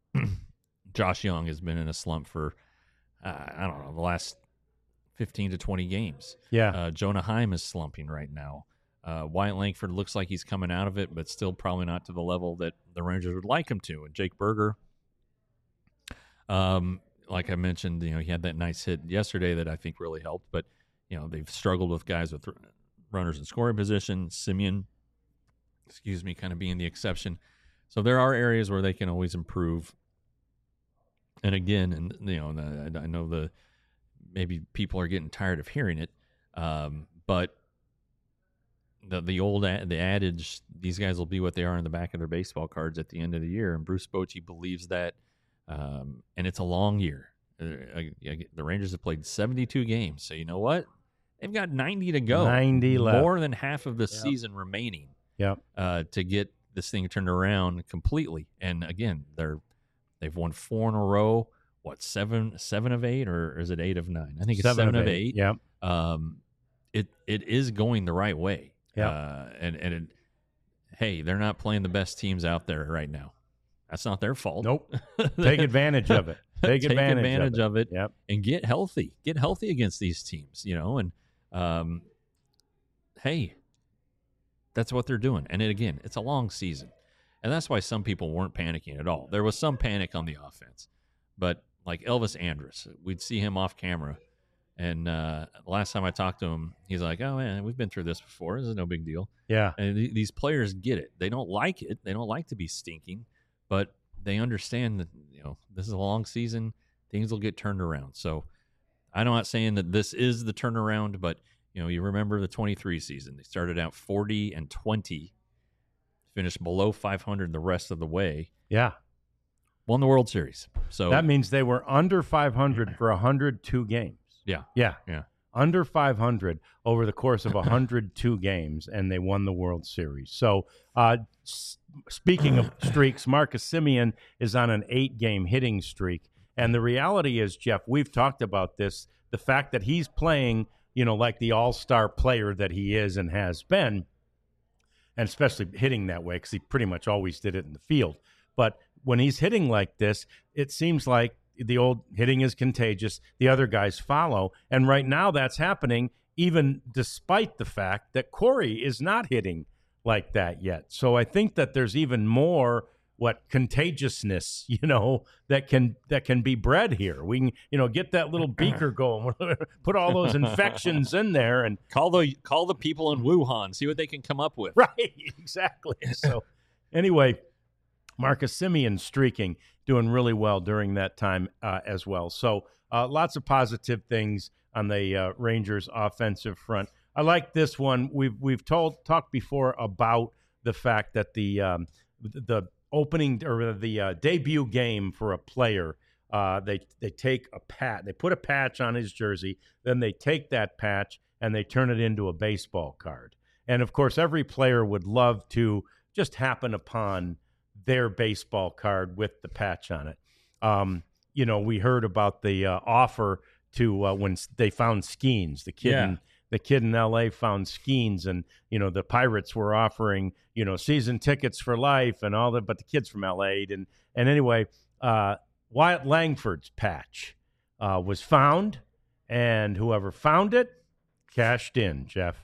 Josh Young has been in a slump for I don't know, the last 15 to 20 games. Yeah. Jonah Heim is slumping right now. Wyatt Langford looks like he's coming out of it, but still probably not to the level that the Rangers would like him to. And Jake Berger, like I mentioned, he had that nice hit yesterday that I think really helped. But they've struggled with guys with runners in scoring position. Simeon, kind of being the exception. So there are areas where they can always improve. And again, I know maybe people are getting tired of hearing it, but the adage, these guys will be what they are in the back of their baseball cards at the end of the year, and Bruce Bochy believes that, and it's a long year. The Rangers have played 72 games, so you know what? They've got 90 to go. 90 left. More than half of the season remaining. Yep. To get this thing turned around completely. And again, they've won 4 in a row. What, 7 of 8, or is it 8 of 9? I think it's 7 of 8. Yep. It is going the right way. Yeah. Hey, they're not playing the best teams out there right now. That's not their fault. Nope. Take advantage of it. Take advantage of it Yep. and get healthy. Get healthy against these teams, and hey, that's what they're doing. And again, it's a long season. And that's why some people weren't panicking at all. There was some panic on the offense. But like Elvis Andrus, we'd see him off camera. And last time I talked to him, he's like, oh, man, we've been through this before. This is no big deal. Yeah. And these players get it. They don't like it. They don't like to be stinking. But they understand that, this is a long season. Things will get turned around. So I'm not saying that this is the turnaround, but, you remember the 23 season. They started out 40-20. Finished below 500 the rest of the way. Yeah. Won the World Series. So that means they were under 500 for 102 games. Yeah. Yeah. Yeah. Under 500 over the course of 102 games, and they won the World Series. So, speaking of streaks, Marcus Semien is on an 8-game hitting streak. And the reality is, Jeff, we've talked about this, the fact that he's playing, like the all-star player that he is and has been, and especially hitting that way because he pretty much always did it in the field. But when he's hitting like this, it seems like the old hitting is contagious. The other guys follow. And right now that's happening even despite the fact that Corey is not hitting like that yet. So I think that there's even more contagiousness, that can be bred here. We can, get that little beaker going, put all those infections in there, and call the people in Wuhan, see what they can come up with. Right, exactly. So anyway, Marcus Semien streaking, doing really well during that time as well. So lots of positive things on the Rangers offensive front. I like this one. We've talked before about the fact that the opening or the debut game for a player, they take they put a patch on his jersey, then they take that patch and they turn it into a baseball card. And of course, every player would love to just happen upon their baseball card with the patch on it. We heard about the offer to when they found Skeens, the kid in L.A. found Skeens, and the Pirates were offering season tickets for life and all that, but the kid's from L.A. and anyway, Wyatt Langford's patch was found, and whoever found it cashed in. Jeff,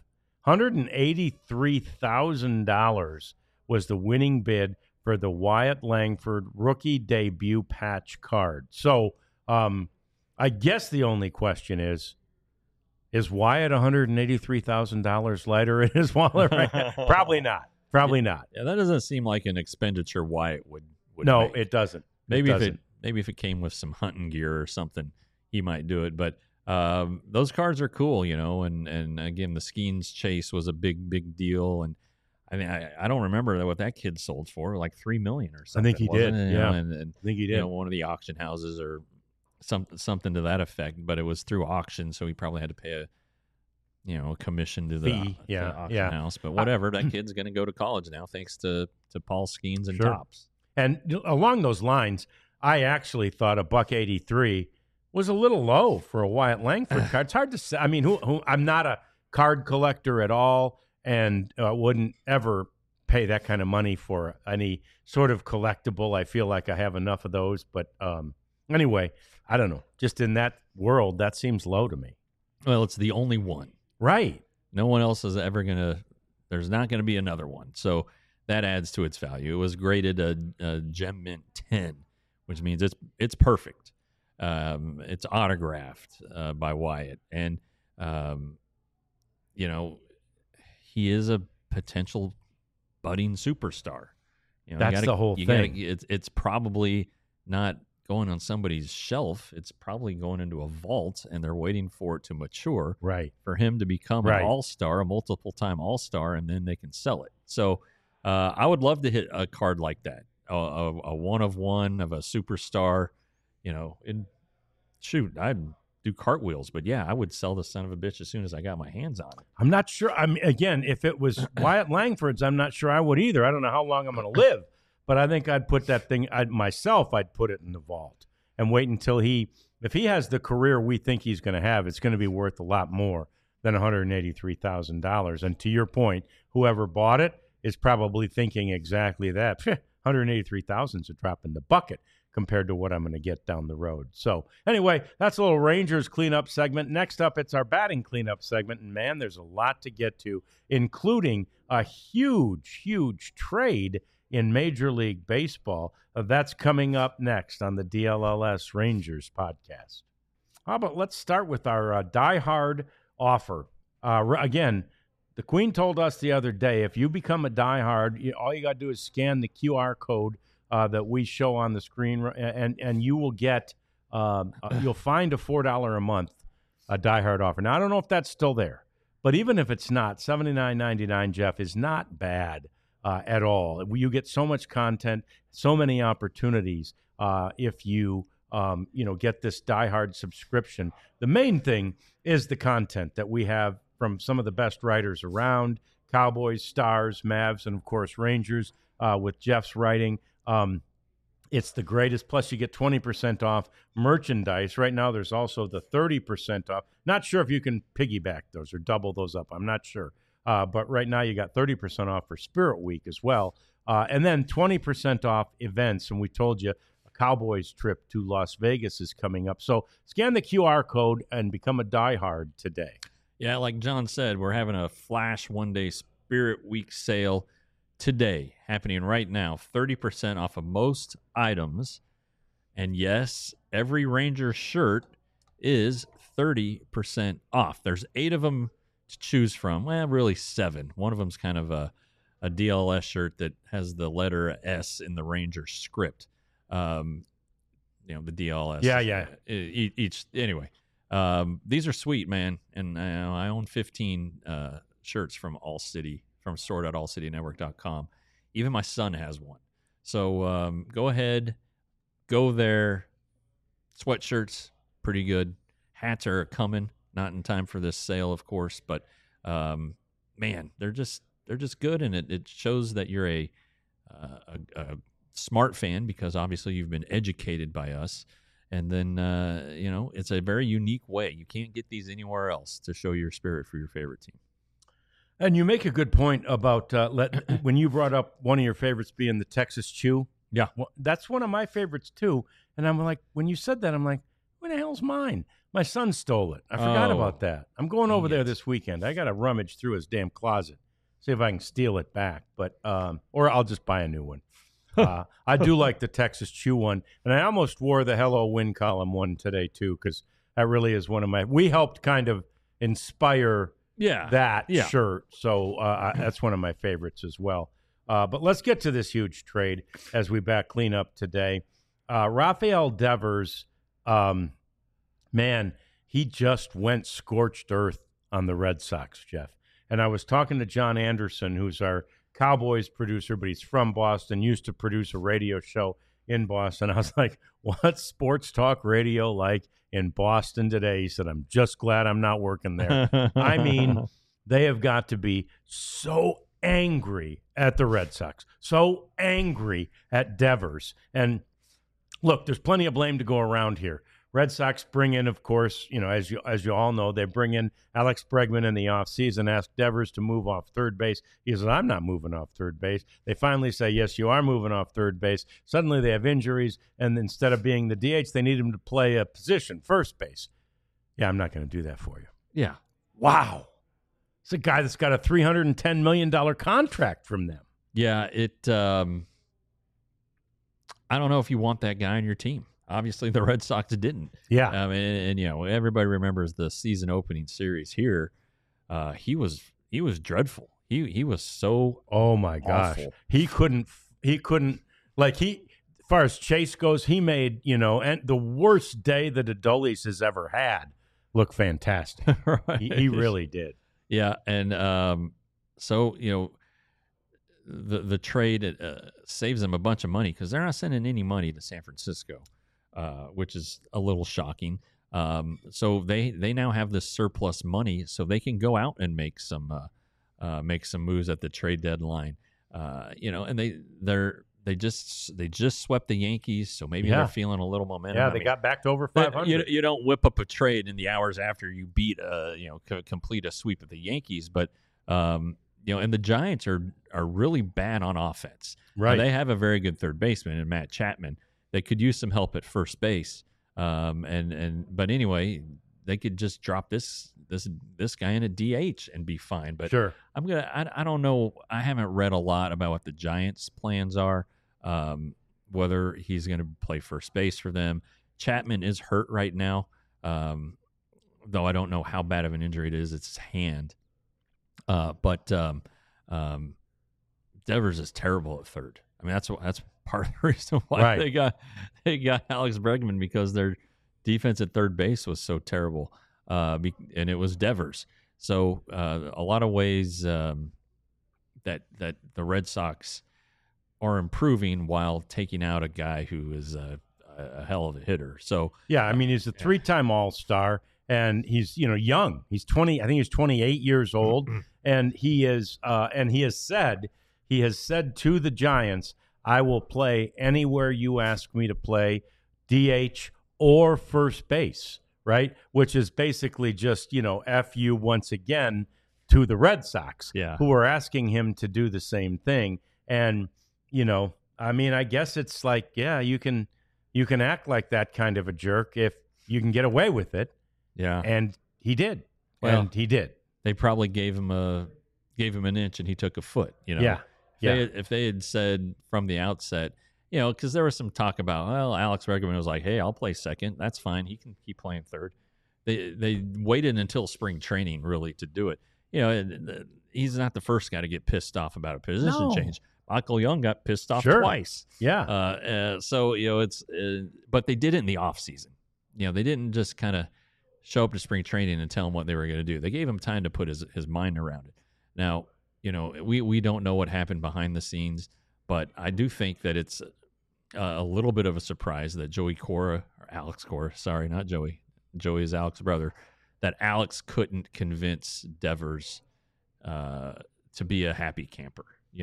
$183,000 was the winning bid for the Wyatt Langford rookie debut patch card. So I guess the only question is Wyatt $183,000 lighter in his wallet right now? Probably not. Probably not. Yeah, that doesn't seem like an expenditure Wyatt would No, make. It doesn't. Maybe if it came with some hunting gear or something, he might do it. But those cards are cool, and again, the Skeens chase was a big deal. And I mean, I don't remember what that kid sold for, like $3 million or something. I think he did. Yeah, and I think he did. One of the auction houses or something to that effect. But it was through auction, so he probably had to pay a commission to the auction house. But whatever, that kid's going to go to college now, thanks to Paul Skeens and Topps. And along those lines, I actually thought $183 was a little low for a Wyatt Langford card. It's hard to say. I mean, who I'm not a card collector at all, and wouldn't ever pay that kind of money for any sort of collectible. I feel like I have enough of those. But anyway, I don't know. Just in that world, that seems low to me. Well, it's the only one. Right. No one else is ever going to – there's not going to be another one. So that adds to its value. It was graded a Gem Mint 10, which means it's perfect. It's autographed by Wyatt. And, he is a potential budding superstar. That's the whole thing. It's probably not going on somebody's shelf. It's probably going into a vault, and they're waiting for it to mature. Right. For him to become an all-star, a multiple-time all-star, and then they can sell it. So I would love to hit a card like that, a one-of-one of a superstar. I'd do cartwheels, but yeah, I would sell the son of a bitch as soon as I got my hands on it. I'm not sure. Again, if it was Wyatt Langford's, I'm not sure I would either. I don't know how long I'm going to live, but I think I'd put that thing I'd put it in the vault and wait until if he has the career we think he's going to have, it's going to be worth a lot more than $183,000. And to your point, whoever bought it is probably thinking exactly that. $183,000 is a drop in the bucket compared to what I'm going to get down the road. So anyway, that's a little Rangers cleanup segment. Next up, it's our batting cleanup segment. And man, there's a lot to get to, including a huge trade in Major League Baseball. That's coming up next on the DLLS Rangers podcast. How about let's start with our Die Hard offer. Again, the Queen told us the other day, if you become a Die Hard, all you got to do is scan the QR code that we show on the screen, and you will get you'll find a $4 a month Die Hard offer. Now I don't know if that's still there, but even if it's not, $79.99, Jeff, is not bad at all. You get so much content, so many opportunities if you get this Die Hard subscription. The main thing is the content that we have from some of the best writers around: Cowboys, Stars, Mavs, and of course Rangers with Jeff's writing. It's the greatest. Plus, you get 20% off merchandise. Right now, there's also the 30% off. Not sure if you can piggyback those or double those up. I'm not sure. But right now, you got 30% off for Spirit Week as well. And then 20% off events. And we told you a Cowboys trip to Las Vegas is coming up. So scan the QR code and become a diehard today. Yeah, like John said, we're having a flash one-day Spirit Week sale today, happening right now, 30% off of most items. And yes, every Ranger shirt is 30% off. There's 8 of them to choose from. Well, really 7. One of them's kind of a DLS shirt that has the letter S in the Ranger script. The DLS. Yeah. Anyway, these are sweet, man. And I own 15 shirts from All City, from store.allcitynetwork.com. Even my son has one. So go ahead, go there. Sweatshirts, pretty good. Hats are coming, not in time for this sale, of course, but man, they're just good, and it shows that you're a smart fan, because obviously you've been educated by us. And then it's a very unique way. You can't get these anywhere else to show your spirit for your favorite team. And you make a good point about when you brought up one of your favorites being the Texas Chew. Yeah. Well, that's one of my favorites, too. And I'm like, when you said that, I'm like, what the hell's mine? My son stole it. I forgot about that. I'm going over there this weekend. I got to rummage through his damn closet, see if I can steal it back. But or I'll just buy a new one. I do like the Texas Chew one. And I almost wore the Hello Win Column one today, too, because that really is one of my – we helped kind of inspire – that shirt. So that's one of my favorites as well. But let's get to this huge trade as we clean up today. Rafael Devers, man, he just went scorched earth on the Red Sox, Jeff. And I was talking to John Anderson, who's our Cowboys producer, but he's from Boston, used to produce a radio show in Boston. I was like, what's sports talk radio like in Boston today? He said, I'm just glad I'm not working there. I mean, they have got to be so angry at the Red Sox, so angry at Devers. And look, there's plenty of blame to go around here. Red Sox bring in, of course, as you all know, they bring in Alex Bregman in the offseason, ask Devers to move off third base. He says, I'm not moving off third base. They finally say, yes, you are moving off third base. Suddenly they have injuries, and instead of being the DH, they need him to play a position, first base. Yeah, I'm not going to do that for you. Yeah. Wow. It's a guy that's got a $310 million contract from them. Yeah, I don't know if you want that guy on your team. Obviously, the Red Sox didn't. Yeah. And everybody remembers the season opening series here. He was dreadful. He was so oh my gosh. Awful. He couldn't as far as Chase goes, he made, and the worst day that Adolis has ever had look fantastic. Right. He really did. Yeah, and so the trade saves them a bunch of money, because they're not sending any money to San Francisco. Which is a little shocking. So they now have this surplus money, so they can go out and make some moves at the trade deadline. And they just swept the Yankees, so maybe they're feeling a little momentum. Yeah, they got back to over 500. You don't whip up a trade in the hours after you beat complete a sweep of the Yankees, but and the Giants are really bad on offense. Right, they have a very good third baseman in Matt Chapman. they could use some help at first base. But anyway, they could just drop this guy in a DH and be fine. But Sure. I don't know. I haven't read a lot about what the Giants' plans are. Whether he's going to play first base for them. Chapman is hurt right now, though I don't know how bad of an injury it is. It's his hand. But Devers is terrible at third. I mean, that's part of the reason why they got Alex Bregman, because their defense at third base was so terrible, and it was Devers. So a lot of ways that the Red Sox are improving while taking out a guy who is a hell of a hitter. So yeah, I mean, he's a 3-time All-Star, and he's young. He's 20. I think he's 28 years old, and he is and he has said to the Giants, "I will play anywhere you ask me to play, DH or first base." Right, which is basically just F you once again to the Red Sox, who are asking him to do the same thing. And I mean, I guess it's like, yeah, you can act like that kind of a jerk if you can get away with it. Yeah, and he did. Well, and he did. They probably gave him an inch and he took a foot. Yeah. If they had said from the outset, because there was some talk about, well, Alex Bregman was like, hey, I'll play second. That's fine. He can keep playing third. They waited until spring training really to do it. He's not the first guy to get pissed off about a position change. Michael Young got pissed off twice. Yeah. So it's but they did it in the off season. They didn't just kind of show up to spring training and tell him what they were going to do. They gave him time to put his mind around it. Now, we don't know what happened behind the scenes, but I do think that it's a little bit of a surprise that Alex Cora, sorry, not Joey. Joey is Alex's brother. That Alex couldn't convince Devers to be a happy camper.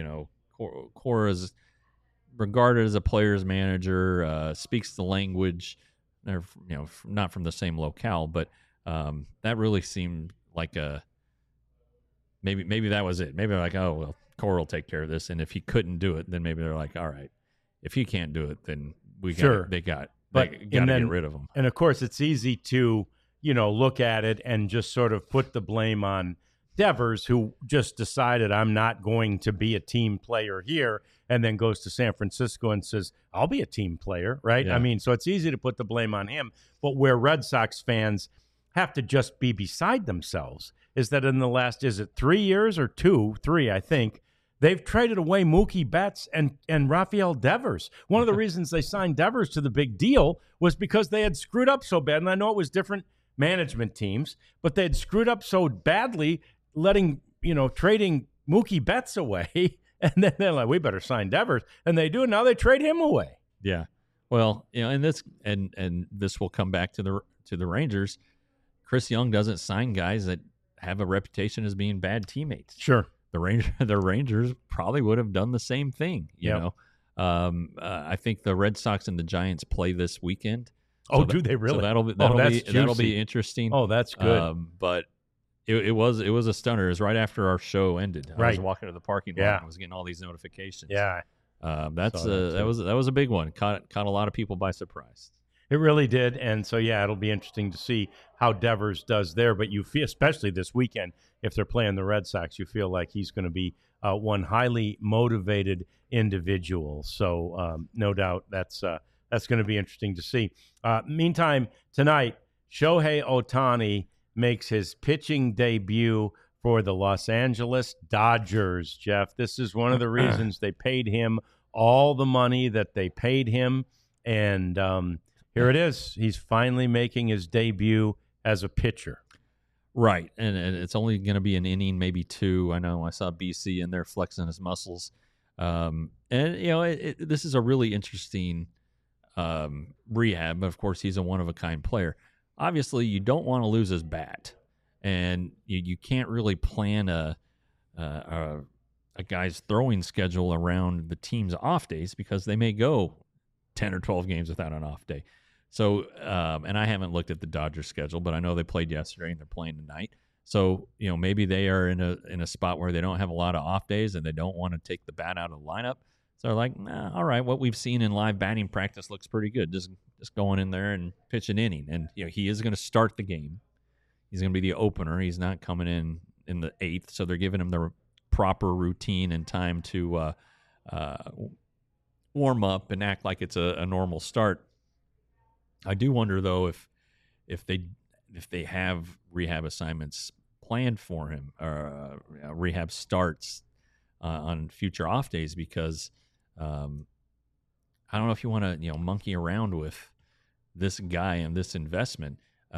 Cora's regarded as a player's manager, speaks the language. Not from the same locale, but that really seemed like maybe that was it. Maybe they're like, oh well, Cora will take care of this, and if he couldn't do it, then maybe they're like, all right, if he can't do it, then they got to get rid of him. And of course, it's easy to look at it and just sort of put the blame on Devers, who just decided, I'm not going to be a team player here, and then goes to San Francisco and says, I'll be a team player, right? Yeah. I mean, so it's easy to put the blame on him. But where Red Sox fans have to just be beside themselves is that in the last, is it 3 years or 3, I think, they've traded away Mookie Betts and Rafael Devers. One of the reasons they signed Devers to the big deal was because they had screwed up so bad. And I know it was different management teams, but they had screwed up so badly trading Mookie Betts away. And then they're like, we better sign Devers. And they do. And now they trade him away. Yeah. Well, and this will come back to the Rangers. Chris Young doesn't sign guys that have a reputation as being bad teammates. Sure. The Rangers probably would have done the same thing. I think the Red Sox and the Giants play this weekend. Do they really? So that'll be interesting. Oh, that's good. But it was a stunner. It was right after our show ended. I was walking to the parking lot and I was getting all these notifications. Yeah. That was a big one. Caught a lot of people by surprise. It really did. And so, it'll be interesting to see how Devers does there. But you feel, especially this weekend, if they're playing the Red Sox, you feel like he's going to be one highly motivated individual. So no doubt that's going to be interesting to see. Meantime, tonight, Shohei Ohtani makes his pitching debut for the Los Angeles Dodgers, Jeff. This is one of the reasons they paid him all the money that they paid him. And here it is. He's finally making his debut as a pitcher. Right. And it's only going to be an inning, maybe 2. I know I saw BC in there flexing his muscles. This is a really interesting rehab. But of course, he's a one-of-a-kind player. Obviously, you don't want to lose his bat. And you can't really plan a guy's throwing schedule around the team's off days because they may go 10 or 12 games without an off day. So, and I haven't looked at the Dodgers schedule, but I know they played yesterday and they're playing tonight. So, maybe they are in a spot where they don't have a lot of off days and they don't want to take the bat out of the lineup. So they're like, nah, all right, what we've seen in live batting practice looks pretty good. Just going in there and pitch an inning. And he is going to start the game. He's going to be the opener. He's not coming in the 8th, so they're giving him the proper routine and time to warm up and act like it's a normal start. I do wonder though if they have rehab assignments planned for him or rehab starts on future off days, because I don't know if you want to monkey around with this guy and this investment.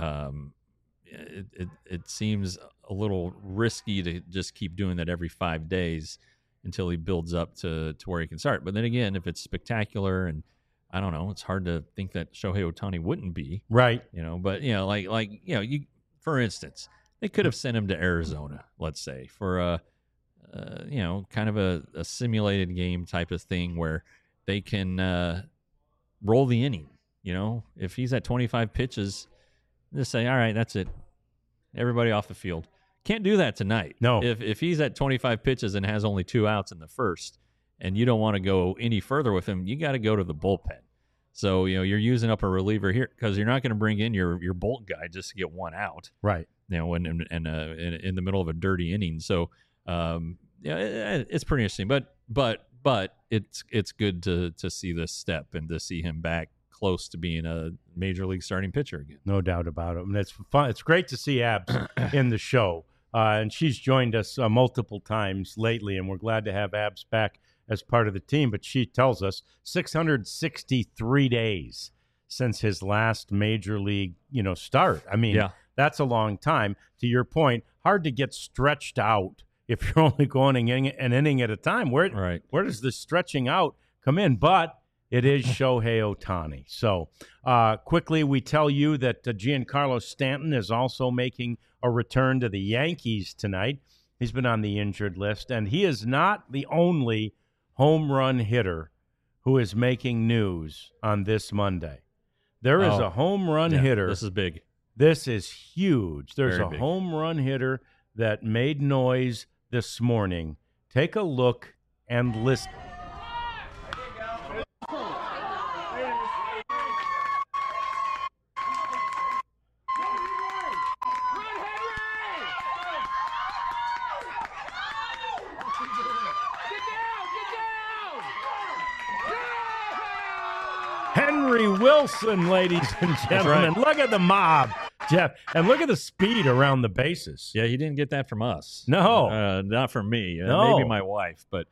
It seems a little risky to just keep doing that every 5 days until he builds up to where he can start. But then again, if it's spectacular, and I don't know, it's hard to think that Shohei Ohtani wouldn't be. Right. But you, for instance, they could have sent him to Arizona, let's say, for kind of a simulated game type of thing where they can roll the inning. If he's at 25 pitches, just say, all right, that's it. Everybody off the field. Can't do that tonight. No. If he's at 25 pitches and has only 2 outs in the first, and you don't want to go any further with him, you got to go to the bullpen. So, you're using up a reliever here because you're not going to bring in your bolt guy just to get 1 out. Right. When in the middle of a dirty inning. So, it's pretty interesting. But it's good to see this step and to see him back close to being a major league starting pitcher again. No doubt about it. And it's fun. It's great to see Abs in the show. And she's joined us multiple times lately, and we're glad to have Abs back as part of the team. But she tells us 663 days since his last major league, start. I mean, That's a long time. To your point, hard to get stretched out if you're only going an inning at a time. Where does the stretching out come in? But it is Shohei Ohtani. So quickly, we tell you that Giancarlo Stanton is also making a return to the Yankees tonight. He's been on the injured list, and he is not the only home run hitter who is making news on this Monday. There is a home run hitter. This is big. This is huge. There's Very a big home run hitter that made noise this morning. Take a look and listen. Henry Wilson, ladies and gentlemen. Right. Look at the mob, Jeff. And look at the speed around the bases. Yeah, he didn't get that from us. No. Not from me. No. Maybe my wife. But,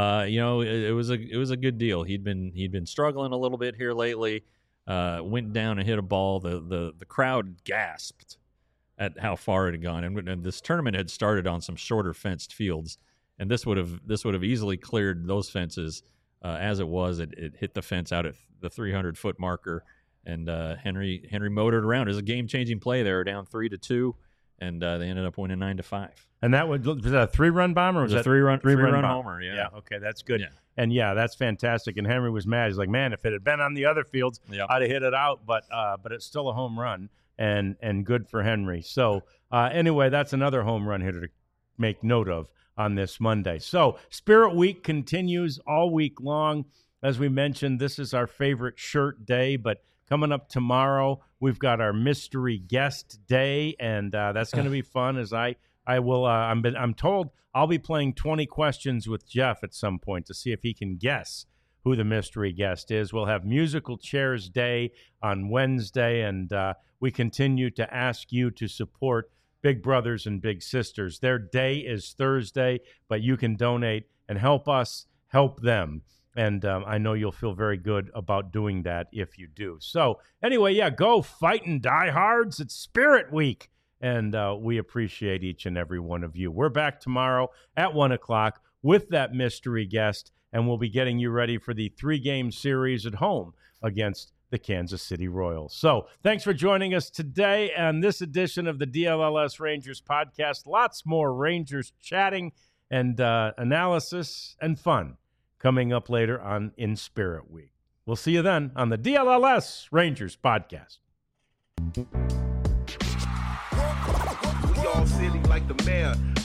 it was a good deal. He'd been struggling a little bit here lately. Went down and hit a ball. The crowd gasped at how far it had gone. And this tournament had started on some shorter fenced fields. And this would have easily cleared those fences. As it was, it hit the fence out at the 300-foot marker, and Henry motored around. It was a game-changing play. They were down 3-2, and they ended up winning 9-5. And was that a 3-run bomb, or was that a three-run bomb? homer? Yeah. Okay, that's good. Yeah. And that's fantastic. And Henry was mad. He's like, man, if it had been on the other fields, I'd have hit it out. But it's still a home run, and good for Henry. So anyway, that's another home run hitter to make note of on this Monday. So Spirit Week continues all week long. As we mentioned, this is our favorite shirt day, but coming up tomorrow, we've got our mystery guest day, and that's going to be fun. As I will, I'm told I'll be playing 20 questions with Jeff at some point to see if he can guess who the mystery guest is. We'll have musical chairs day on Wednesday, and we continue to ask you to support Big Brothers and Big Sisters. Their day is Thursday, but you can donate and help us help them. And I know you'll feel very good about doing that if you do. So anyway, go fighting diehards. It's Spirit Week. And we appreciate each and every one of you. We're back tomorrow at 1 o'clock with that mystery guest. And we'll be getting you ready for the 3-game series at home against the Kansas City Royals. So thanks for joining us today on this edition of the DLLS Rangers podcast. Lots more Rangers chatting and analysis and fun coming up later on in Spirit Week. We'll see you then on the DLLS Rangers podcast. We all silly like the mayor.